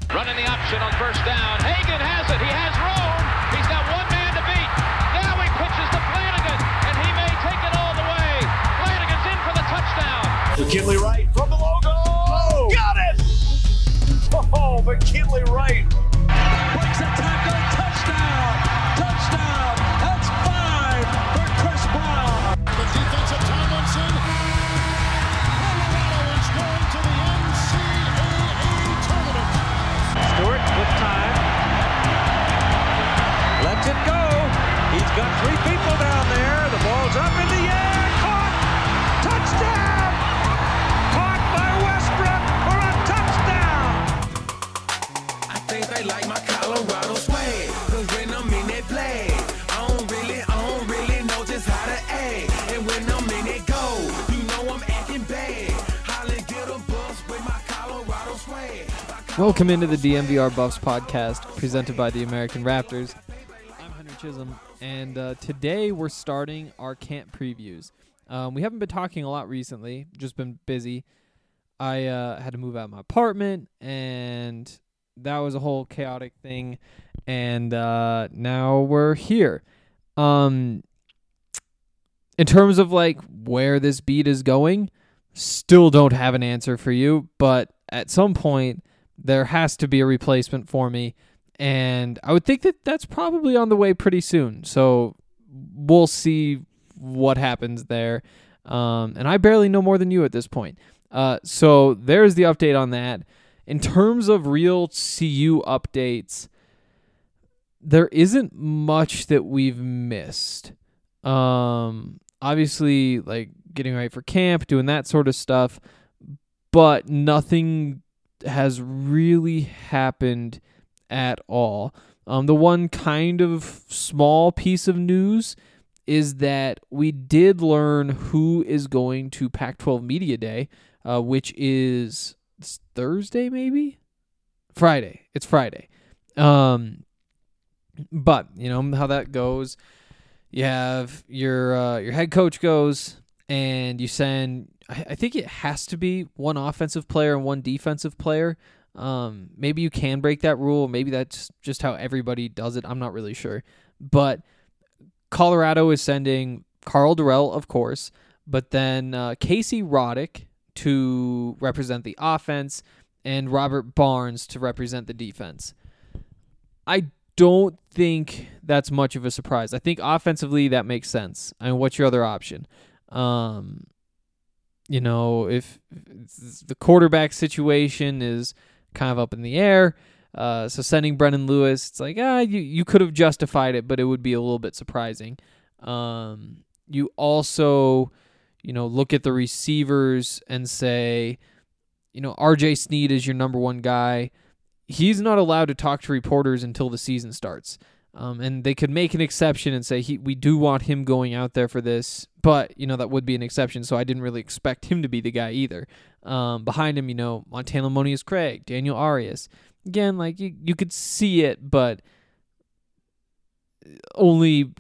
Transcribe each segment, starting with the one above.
Running the option on first down. Hagan has it. He has room. He's got one man to beat. Now he pitches to Flanagan, and he may take it all the way. Flanagan's in for the touchdown. McKinley Wright from the logo. Oh, got it! Oh, McKinley Wright. Breaks a tackle. Touchdown. Touchdown. That's 5 for Chris Brown. The defensive Tomlinson. Colorado is going to the NCAA tournament. Stewart with time. Lets it go. He's got 3 people down there. The ball's up in the air. Caught. Touchdown. Caught by Westbrook for a touchdown. I think they like my Colorado swag. Cause when I'm in that play, I don't really know just how to act. And when I'm in it go, you know I'm acting bad. Holly get a bus with my Colorado swag. Welcome into the DMVR Buffs podcast presented by the American Raptors. I'm Henry Chisholm, and today we're starting our camp previews. We haven't been talking a lot recently, just been busy. I had to move out of my apartment, and that was a whole chaotic thing, and now we're here. In terms of like where this beat is going, still don't have an answer for you, but at some point there has to be a replacement for me, and I would think that that's probably on the way pretty soon. So we'll see what happens there. And I barely know more than you at this point. So there's the update on that. In terms of real CU updates, there isn't much that we've missed. Obviously, like getting ready for camp, doing that sort of stuff, but nothing has really happened at all. The one kind of small piece of news is that we did learn who is going to Pac-12 Media Day, which is Thursday, maybe? Friday. It's Friday. But, you know how that goes. You have your head coach goes, and you send, I think it has to be one offensive player and one defensive player. Maybe you can break that rule. Maybe that's just how everybody does it. I'm not really sure. But Colorado is sending Karl Dorrell, of course, but then Casey Roddick to represent the offense and Robert Barnes to represent the defense. I don't think that's much of a surprise. I think offensively that makes sense. I mean, what's your other option? You know, if the quarterback situation is kind of up in the air, so sending Brendan Lewis, it's like, you could have justified it, but it would be a little bit surprising. You also, you know, look at the receivers and say, you know, RJ Sneed is your number one guy. He's not allowed to talk to reporters until the season starts. And they could make an exception and say, we do want him going out there for this, but, you know, that would be an exception, so I didn't really expect him to be the guy either. Behind him, you know, Montana Monius Craig, Daniel Arias. Again, like, you could see it, but only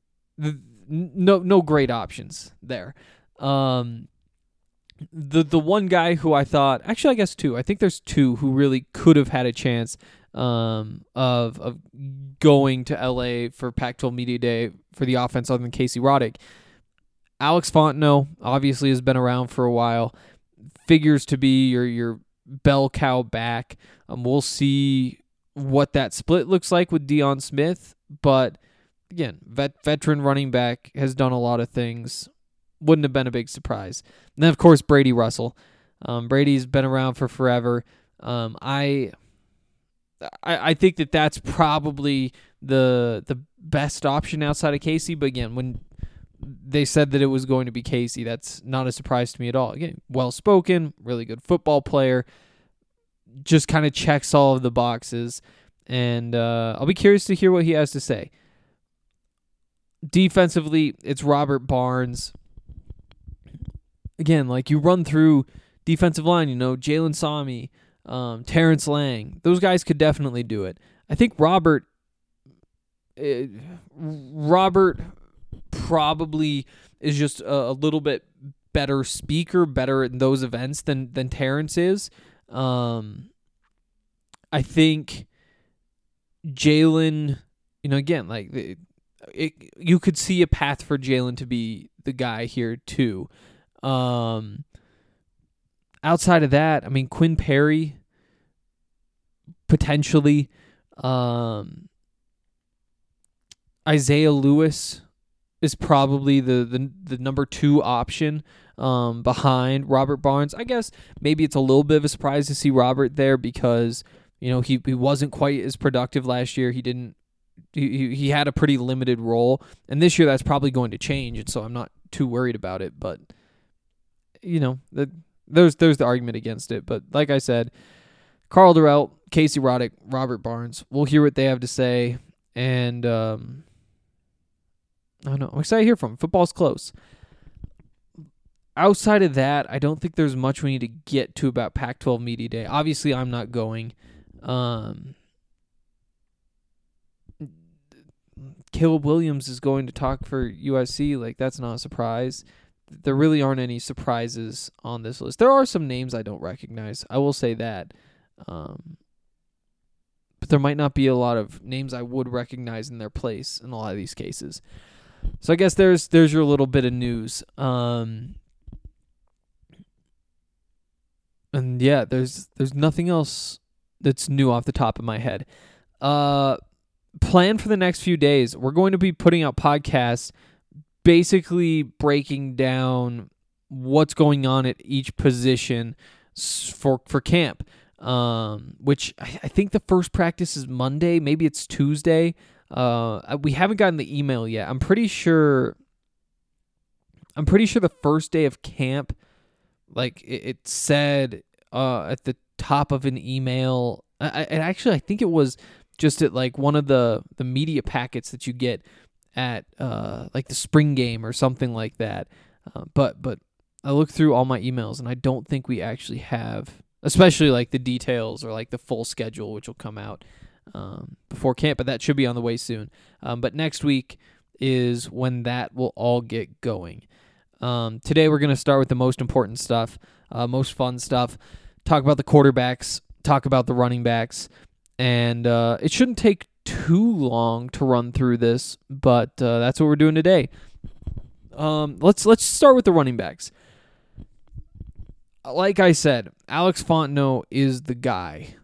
no great options there. The one guy who I thought, actually I guess two, I think there's two who really could have had a chance of going to LA for Pac-12 Media Day for the offense other than Casey Roddick. Alex Fontenot obviously has been around for a while, figures to be your bell cow back. We'll see what that split looks like with Deion Smith, but again, veteran running back, has done a lot of things. Wouldn't have been a big surprise. And then, of course, Brady Russell. Brady's been around for forever. I think that that's probably the best option outside of Casey. But again, when they said that it was going to be Casey, that's not a surprise to me at all. Again, well-spoken, really good football player, just kind of checks all of the boxes. And I'll be curious to hear what he has to say. Defensively, it's Robert Barnes. Again, like you run through defensive line, you know, Jalen Sami, Terrence Lang. Those guys could definitely do it. I think Robert probably is just a little bit better speaker, better in those events than Terrence is. I think Jalen, again, like you could see a path for Jalen to be the guy here too. Outside of that, I mean, Quinn Perry, potentially. Isaiah Lewis is probably the number 2 option behind Robert Barnes. I guess maybe it's a little bit of a surprise to see Robert there because he wasn't quite as productive last year. He had a pretty limited role, and this year that's probably going to change, and so I'm not too worried about it. But there's the argument against it. But like I said, Carl Durrell, Casey Roddick, Robert Barnes. We'll hear what they have to say, and I don't know. I'm excited to hear from them. Football's close. Outside of that, I don't think there's much we need to get to about Pac-12 Media Day. Obviously, I'm not going. Caleb Williams is going to talk for USC. Like, that's not a surprise. There really aren't any surprises on this list. There are some names I don't recognize. I will say that. But there might not be a lot of names I would recognize in their place in a lot of these cases. So I guess there's your little bit of news. And yeah, there's nothing else that's new off the top of my head. Plan for the next few days. We're going to be putting out podcasts basically breaking down what's going on at each position for camp. Which I think the first practice is Monday. Maybe it's Tuesday. We haven't gotten the email yet. I'm pretty sure the first day of camp, like it said at the top of an email. I think it was just at like one of the media packets that you get at like the spring game or something like that. But I looked through all my emails and I don't think we actually have, especially like the details or like the full schedule, which will come out before camp, but that should be on the way soon. But next week is when that will all get going. Today we're going to start with the most important stuff, most fun stuff, talk about the quarterbacks, talk about the running backs, and it shouldn't take too long to run through this, but that's what we're doing today. Let's start with the running backs. Like I said, Alex Fontenot is the guy.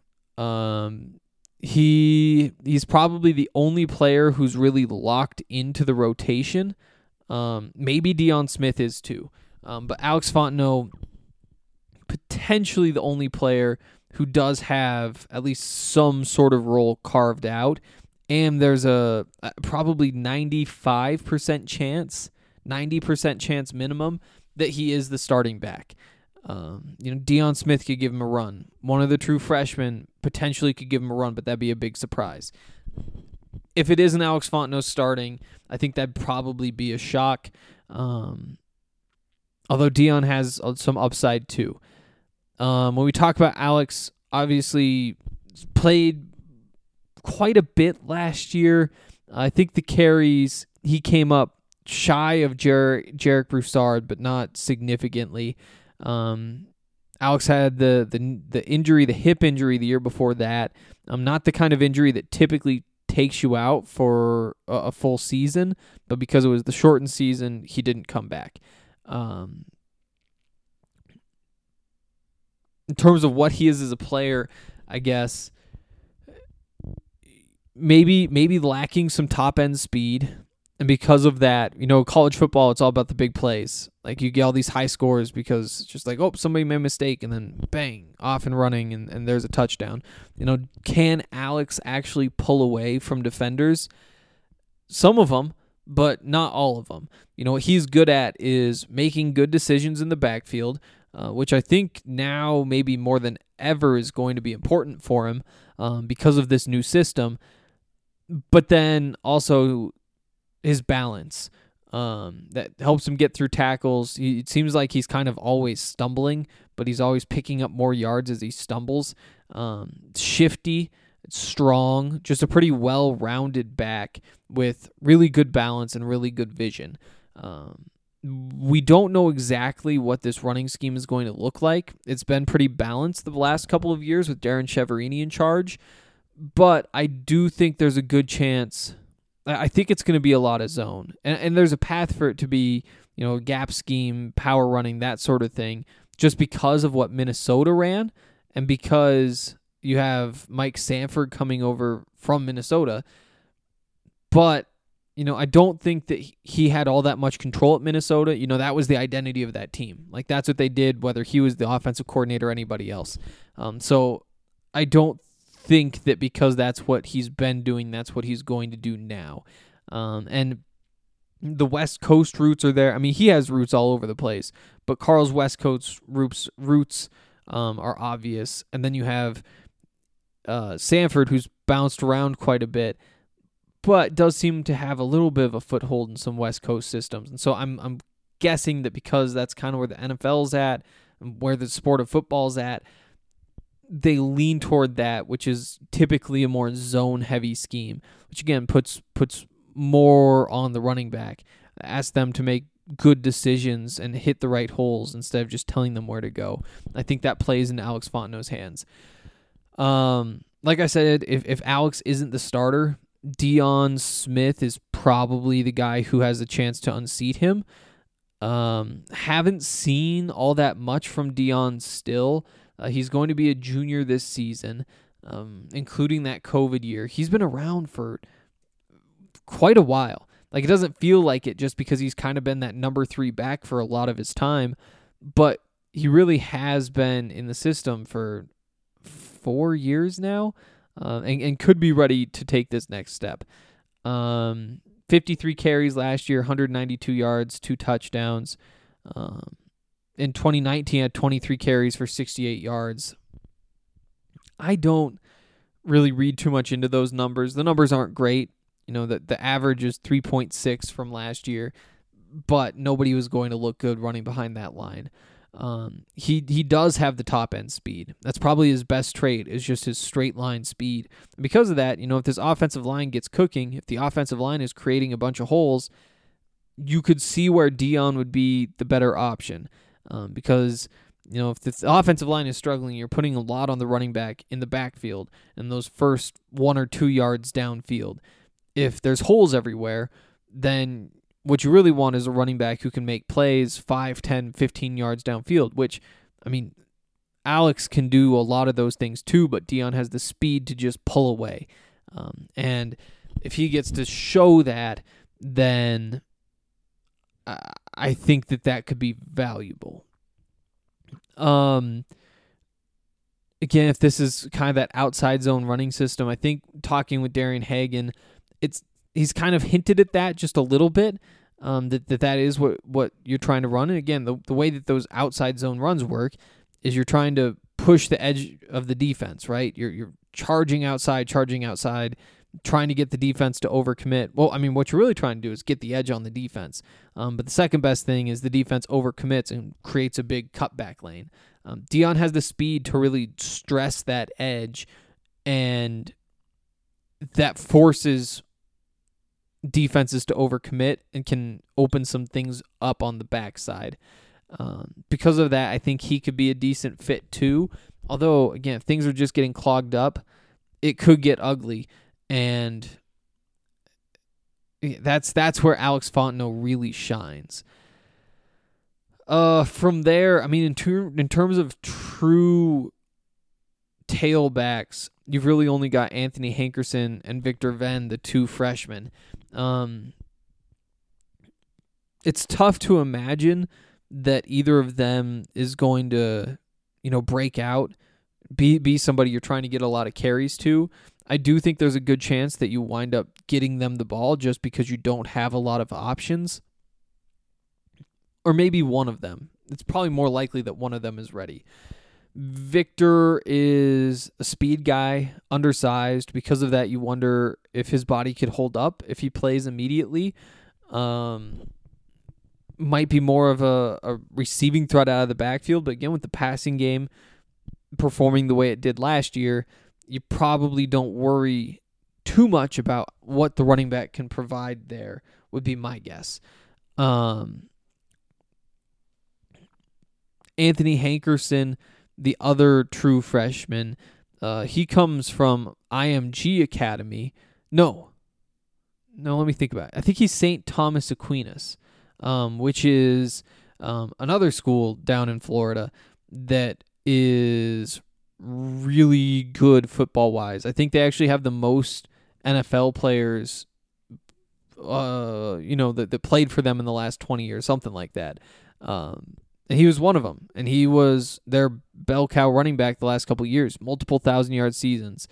He's probably the only player who's really locked into the rotation. Maybe Deion Smith is too. But Alex Fontenot, potentially the only player who does have at least some sort of role carved out. And there's a probably 95% chance, 90% chance minimum that he is the starting back. Deion Smith could give him a run. One of the true freshmen potentially could give him a run, but that'd be a big surprise. If it isn't Alex Fontenot starting, I think that'd probably be a shock. Although Deion has some upside too. When we talk about Alex, obviously played quite a bit last year. I think the carries, he came up shy of Jarek Broussard, but not significantly. Alex had the injury, the hip injury the year before that. Not the kind of injury that typically takes you out for a full season, but because it was the shortened season, he didn't come back. In terms of what he is as a player, I guess maybe lacking some top end speed. And because of that, college football, it's all about the big plays. Like, you get all these high scores because it's just like, oh, somebody made a mistake, and then bang, off and running, and there's a touchdown. Can Alex actually pull away from defenders? Some of them, but not all of them. What he's good at is making good decisions in the backfield, which I think now maybe more than ever is going to be important for him because of this new system. But then also his balance that helps him get through tackles. It seems like he's kind of always stumbling, but he's always picking up more yards as he stumbles. Shifty, strong, just a pretty well-rounded back with really good balance and really good vision. We don't know exactly what this running scheme is going to look like. It's been pretty balanced the last couple of years with Darren Chiaverini in charge, but I do think there's a good chance. I think it's going to be a lot of zone, and there's a path for it to be, a gap scheme, power running, that sort of thing, just because of what Minnesota ran, and because you have Mike Sanford coming over from Minnesota. But I don't think that he had all that much control at Minnesota. That was the identity of that team. Like, that's what they did, whether he was the offensive coordinator or anybody else. So I don't think that because that's what he's been doing, that's what he's going to do now. And the West Coast roots are there. I mean, he has roots all over the place, but Carl's West Coast roots are obvious. And then you have Sanford, who's bounced around quite a bit, but does seem to have a little bit of a foothold in some West Coast systems. And so I'm guessing that because that's kind of where the NFL's at, and where the sport of football's at, they lean toward that, which is typically a more zone-heavy scheme, which again puts more on the running back. Ask them to make good decisions and hit the right holes instead of just telling them where to go. I think that plays into Alex Fontenot's hands. Like I said, if Alex isn't the starter, Deion Smith is probably the guy who has a chance to unseat him. Haven't seen all that much from Deion still. He's going to be a junior this season, including that COVID year. He's been around for quite a while. Like, it doesn't feel like it just because he's kind of been that number 3 back for a lot of his time, but he really has been in the system for 4 years now, and could be ready to take this next step. 53 carries last year, 192 yards, 2 touchdowns. In 2019, had 23 carries for 68 yards. I don't really read too much into those numbers. The numbers aren't great. The average is 3.6 from last year, but nobody was going to look good running behind that line. He does have the top end speed. That's probably his best trait, is just his straight line speed. And because of that, if this offensive line gets cooking, if the offensive line is creating a bunch of holes, you could see where Deion would be the better option. Because, if the offensive line is struggling, you're putting a lot on the running back in the backfield and those first 1 or 2 yards downfield. If there's holes everywhere, then what you really want is a running back who can make plays 5, 10, 15 yards downfield, which, Alex can do a lot of those things too, but Deion has the speed to just pull away. And if he gets to show that, then I think that could be valuable. Again, if this is kind of that outside zone running system, I think talking with Darian Hagan, he's kind of hinted at that just a little bit, that is what you're trying to run. And again, the way that those outside zone runs work is you're trying to push the edge of the defense, right? You're charging outside, trying to get the defense to overcommit. Well, what you're really trying to do is get the edge on the defense. But the second best thing is the defense overcommits and creates a big cutback lane. Deion has the speed to really stress that edge, and that forces defenses to overcommit and can open some things up on the backside. Because of that, I think he could be a decent fit too. Although, again, if things are just getting clogged up, it could get ugly. And that's where Alex Fontenot really shines. From there, in terms of true tailbacks, you've really only got Anthony Hankerson and Victor Venn, the 2 freshmen. It's tough to imagine that either of them is going to, break out, be somebody you're trying to get a lot of carries to. I do think there's a good chance that you wind up getting them the ball just because you don't have a lot of options. Or maybe one of them. It's probably more likely that one of them is ready. Victor is a speed guy, undersized. Because of that, you wonder if his body could hold up if he plays immediately. Might be more of a receiving threat out of the backfield, but again, with the passing game performing the way it did last year, you probably don't worry too much about what the running back can provide there, would be my guess. Anthony Hankerson, the other true freshman, he comes from IMG Academy. No, let me think about it. I think he's St. Thomas Aquinas, which is another school down in Florida that is really good football-wise. I think they actually have the most NFL players that played for them in the last 20 years, something like that. And he was one of them, and he was their bell cow running back the last couple of years, multiple 1,000-yard seasons.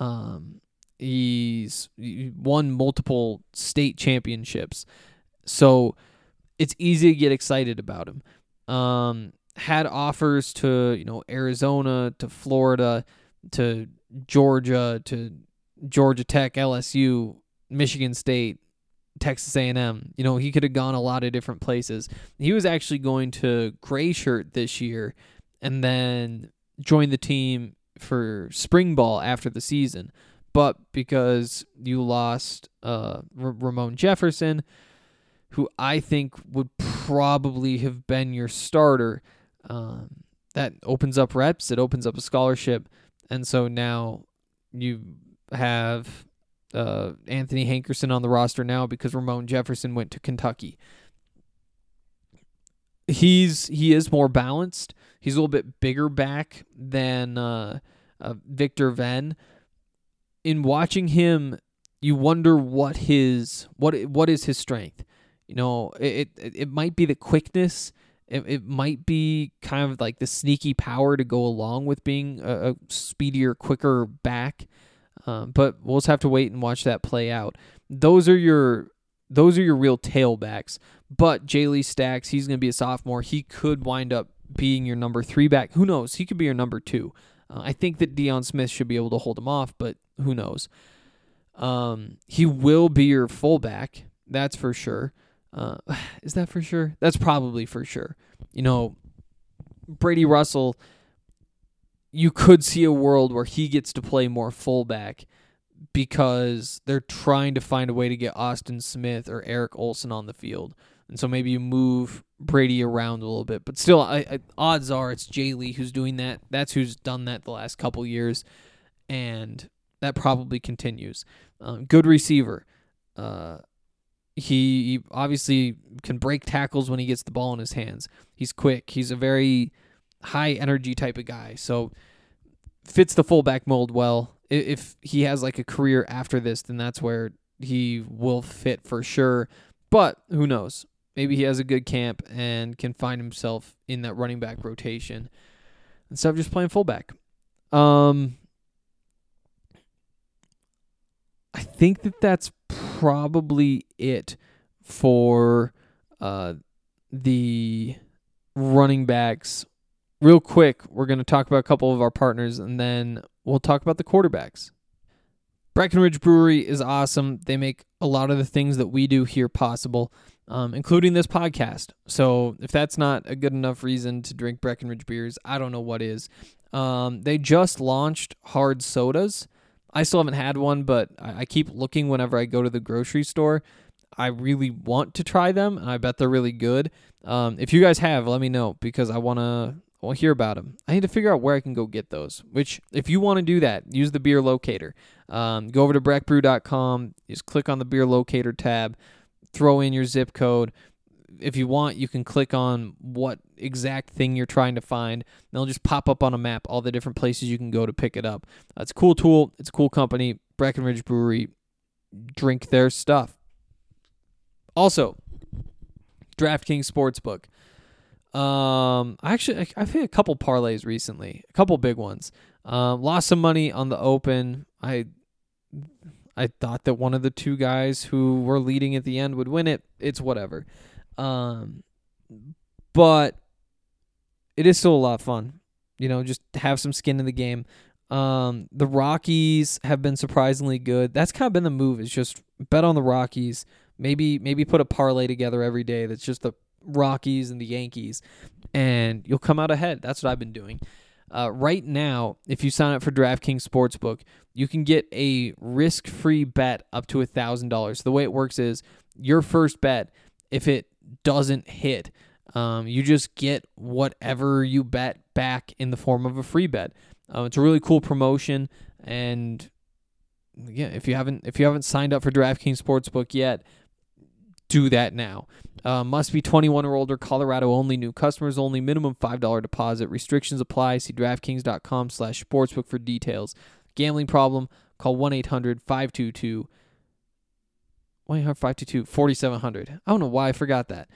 He won multiple state championships, so it's easy to get excited about him. Had offers to Arizona, to Florida, to Georgia Tech, LSU, Michigan State, Texas A&M. He could have gone a lot of different places. He was actually going to Gray Shirt this year and then join the team for spring ball after the season. But because you lost Ramon Jefferson, who I think would probably have been your starter, that opens up reps, it opens up a scholarship, and so now you have Anthony Hankerson on the roster now because Ramon Jefferson went to Kentucky. He is more balanced. He's a little bit bigger back than Victor Venn. In watching him, you wonder what is his strength. It might be the quickness. It might be kind of like the sneaky power to go along with being a speedier, quicker back. But we'll just have to wait and watch that play out. Those are your real tailbacks. But Jay Lee Stacks, he's going to be a sophomore. He could wind up being your number 3 back. Who knows? He could be your number 2. I think that Deion Smith should be able to hold him off, but who knows? He will be your fullback. That's for sure. Is that for sure? That's probably for sure. Brady Russell, you could see a world where he gets to play more fullback because they're trying to find a way to get Austin Smith or Eric Olson on the field. And so maybe you move Brady around a little bit. But still, odds are it's Jay Lee who's doing that. That's who's done that the last couple years. And that probably continues. Good receiver. He obviously can break tackles when he gets the ball in his hands. He's quick. He's a very high-energy type of guy. So fits the fullback mold well. If he has like a career after this, then that's where he will fit for sure. But who knows? Maybe he has a good camp and can find himself in that running back rotation instead of just playing fullback. I think that's probably it for the running backs. Real quick, we're going to talk about a couple of our partners, and then we'll talk about the quarterbacks. Breckenridge Brewery is awesome. They make a lot of the things that we do here possible, including this podcast. So if that's not a good enough reason to drink Breckenridge beers, I don't know what is. They just launched hard sodas. I still haven't had one, but I keep looking whenever I go to the grocery store. I really want to try them, and I bet they're really good. If you guys have, let me know, because I want to hear about them. I need to figure out where I can go get those, which if you want to do that, use the beer locator. Go over to breckbrew.com, just click on the beer locator tab, throw in your zip code. If you want, you can click on what exact thing you're trying to find. And it'll just pop up on a map all the different places you can go to pick it up. It's a cool tool. It's a cool company. Breckenridge Brewery. Drink their stuff. Also, DraftKings Sportsbook. I've hit a couple parlays recently, a couple big ones. Lost some money on the Open. I thought that one of the two guys who were leading at the end would win it. It's whatever. But it is still a lot of fun. Just have some skin in the game. The Rockies have been surprisingly good. That's kind of been the move, is just bet on the Rockies. Maybe put a parlay together every day that's just the Rockies and the Yankees, and you'll come out ahead. That's what I've been doing. Right now, if you sign up for DraftKings Sportsbook, you can get a risk-free bet up to $1,000. The way it works is your first bet, if it doesn't hit, You just get whatever you bet back in the form of a free bet. It's a really cool promotion, and yeah, if you haven't signed up for DraftKings Sportsbook yet, do that now. Must be 21 or older, Colorado only, new customers only, minimum $5 deposit. Restrictions apply. See DraftKings.com/sportsbook for details. Gambling problem? Call 1-800-522-4700. I don't know why I forgot that.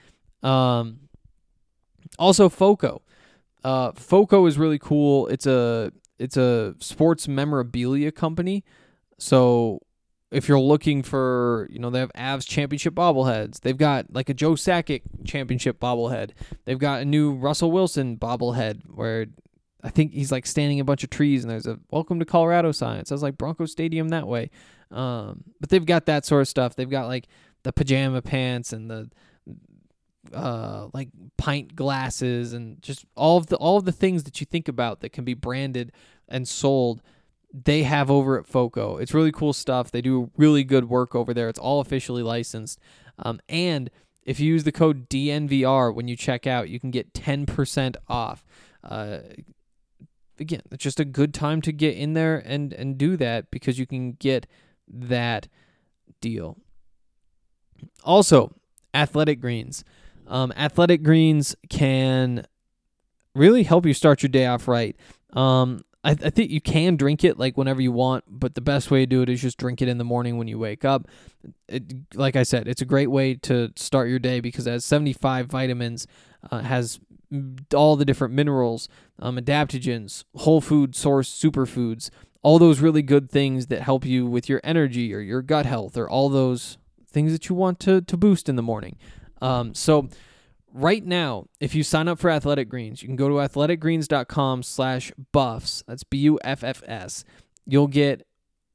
Also, FOCO. FOCO is really cool. It's a sports memorabilia company. So if you're looking for, they have Avs championship bobbleheads. They've got like a Joe Sakic championship bobblehead. They've got a new Russell Wilson bobblehead where I think he's like standing in a bunch of trees and there's a "Welcome to Colorado" sign. It says like Bronco Stadium that way. But they've got that sort of stuff. They've got like the pajama pants and the like pint glasses and just all of the things that you think about that can be branded and sold. They have over at FOCO. It's really cool stuff. They do really good work over there. It's all officially licensed. And if you use the code DNVR when you check out, you can get 10% off. Again, it's just a good time to get in there and do that because you can get that deal. Also, Athletic Greens. Athletic Greens can really help you start your day off right. I think you can drink it like whenever you want, but the best way to do it is just drink it in the morning when you wake up. Like I said, it's a great way to start your day because it has 75 vitamins, has all the different minerals, adaptogens, whole food source superfoods, all those really good things that help you with your energy or your gut health or all those things that you want to boost in the morning. So right now, if you sign up for Athletic Greens, you can go to athleticgreens.com/buffs. That's BUFFS. You'll get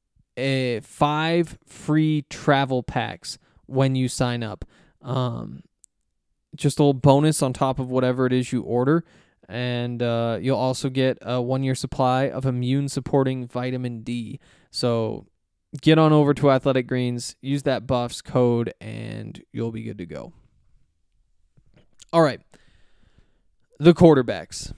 5 free travel packs when you sign up. Just a little bonus on top of whatever it is you order. And you'll also get a 1-year supply of immune-supporting vitamin D. So get on over to Athletic Greens, use that Buffs code, and you'll be good to go. All right, the quarterbacks.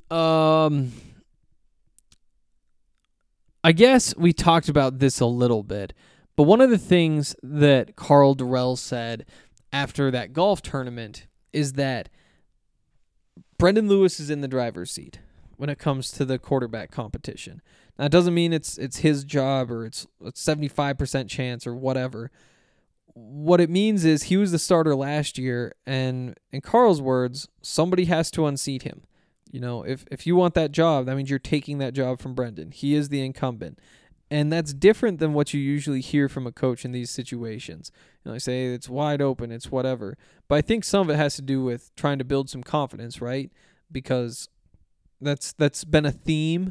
I guess we talked about this a little bit, but one of the things that Karl Dorrell said after that golf tournament is that Brendan Lewis is in the driver's seat when it comes to the quarterback competition. Now, it doesn't mean it's his job or it's a 75% chance or whatever. What it means is he was the starter last year, and in Karl's words, somebody has to unseat him. If you want that job, that means you're taking that job from Brendan. He is the incumbent. And that's different than what you usually hear from a coach in these situations. They say it's wide open, it's whatever. But I think some of it has to do with trying to build some confidence, right? Because that's been a theme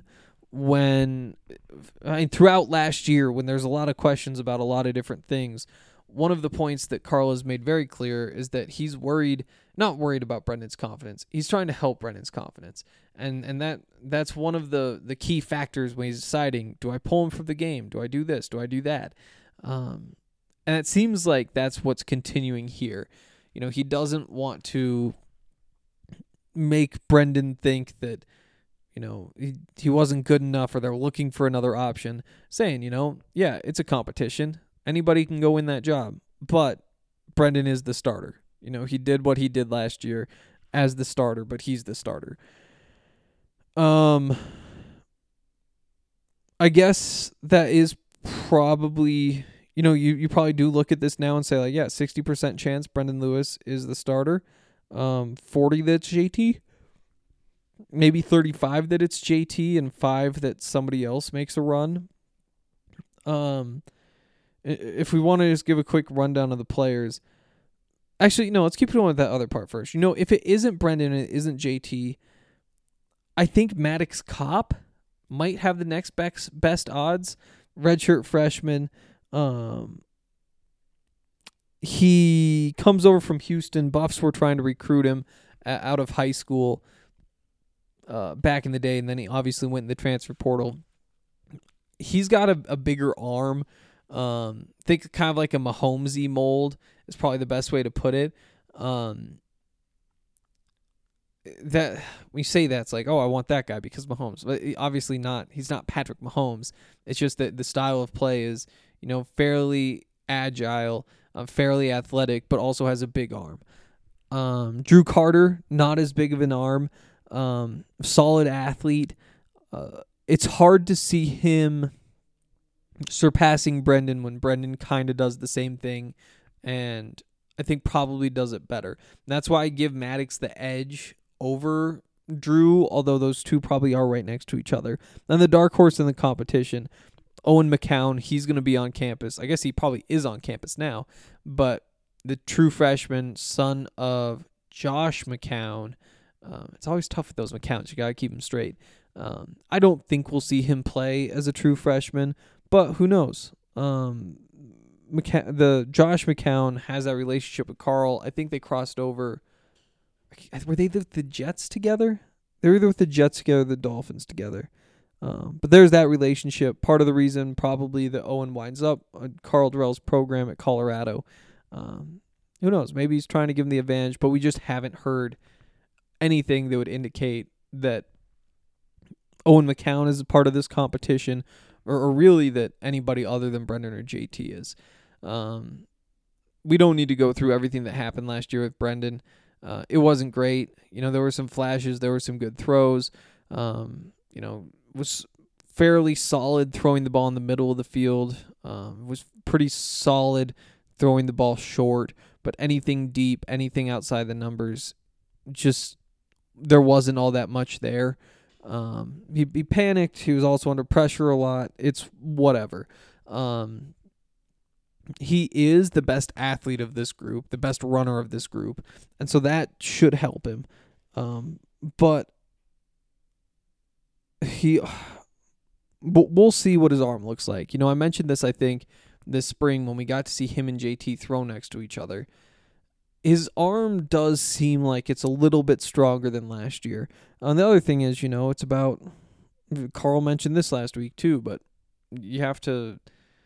throughout last year when there's a lot of questions about a lot of different things. One of the points that Karl has made very clear is that he's not worried about Brendan's confidence. He's trying to help Brendan's confidence. And that's one of the key factors when he's deciding, do I pull him from the game? Do I do this? Do I do that? And it seems like that's what's continuing here. He doesn't want to make Brendan think that, he wasn't good enough or they're looking for another option. Saying, yeah, it's a competition. Anybody can go win that job, but Brendan is the starter. He did what he did last year as the starter, but he's the starter. I guess that is probably, you probably do look at this now and say, like, yeah, 60% chance Brendan Lewis is the starter. 40 that's JT. Maybe 35 that it's JT and 5 that somebody else makes a run. If we want to just give a quick rundown of the players. Actually, no, let's keep going with that other part first. If it isn't Brendan and it isn't JT, I think Maddox Kopp might have the next best odds. Redshirt freshman. He comes over from Houston. Buffs were trying to recruit him out of high school back in the day, and then he obviously went in the transfer portal. He's got a bigger arm. Think kind of like a Mahomesy mold is probably the best way to put it. that we say that's like, oh, I want that guy because Mahomes. But obviously not. He's not Patrick Mahomes. It's just that the style of play is, fairly agile, fairly athletic, but also has a big arm. Drew Carter, not as big of an arm, solid athlete. It's hard to see him surpassing Brendan when Brendan kind of does the same thing, and I think probably does it better. That's why I give Maddox the edge over Drew, although those two probably are right next to each other. And the dark horse in the competition, Owen McCown, he's going to be on campus. I guess he probably is on campus now, but the true freshman, son of Josh McCown. It's always tough with those McCowns. You got to keep them straight. I don't think we'll see him play as a true freshman, but who knows? The Josh McCown has that relationship with Carl. I think they crossed over. Were they the Jets together? They were either with the Jets together or the Dolphins together. But there's that relationship. Part of the reason probably that Owen winds up on Carl Durrell's program at Colorado. Who knows? Maybe he's trying to give him the advantage, but we just haven't heard anything that would indicate that Owen McCown is a part of this competition, or really that anybody other than Brendan or JT is. We don't need to go through everything that happened last year with Brendan. It wasn't great. There were some flashes. There were some good throws. Was fairly solid throwing the ball in the middle of the field. Was pretty solid throwing the ball short. But anything deep, anything outside the numbers, just there wasn't all that much there. He panicked. He was also under pressure a lot. It's whatever. He is the best athlete of this group, the best runner of this group, and so that should help him. But we'll see what his arm looks like. I mentioned this, I think, this spring when we got to see him and JT throw next to each other. His arm does seem like it's a little bit stronger than last year. And the other thing is, it's about, Carl mentioned this last week too, but you have to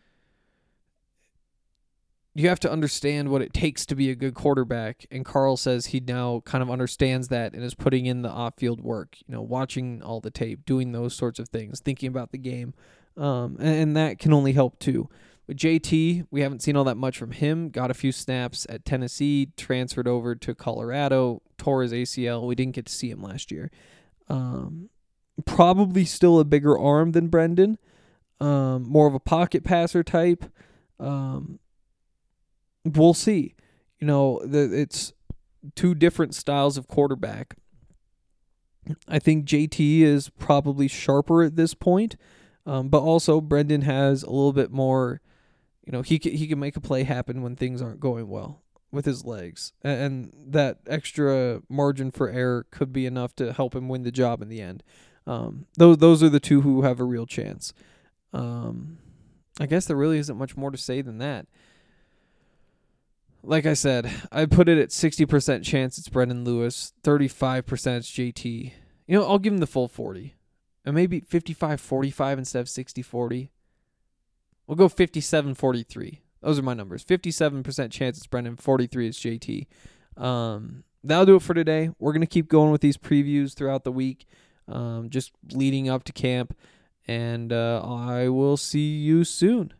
understand what it takes to be a good quarterback. And Carl says he now kind of understands that and is putting in the off-field work, watching all the tape, doing those sorts of things, thinking about the game. And that can only help too. With JT, we haven't seen all that much from him. Got a few snaps at Tennessee, transferred over to Colorado, tore his ACL. We didn't get to see him last year. Probably still a bigger arm than Brendan. More of a pocket passer type. We'll see. It's two different styles of quarterback. I think JT is probably sharper at this point, but also Brendan has a little bit more. He can make a play happen when things aren't going well with his legs, and that extra margin for error could be enough to help him win the job in the end. Those are the two who have a real chance. I guess there really isn't much more to say than that. Like I said, I put it at 60% chance it's Brendan Lewis, 35% it's JT. I'll give him the full 40. And maybe 55-45 instead of 60-40. We'll go 57-43. Those are my numbers. 57% chance it's Brendan, 43 is JT. That'll do it for today. We're going to keep going with these previews throughout the week, just leading up to camp. And I will see you soon.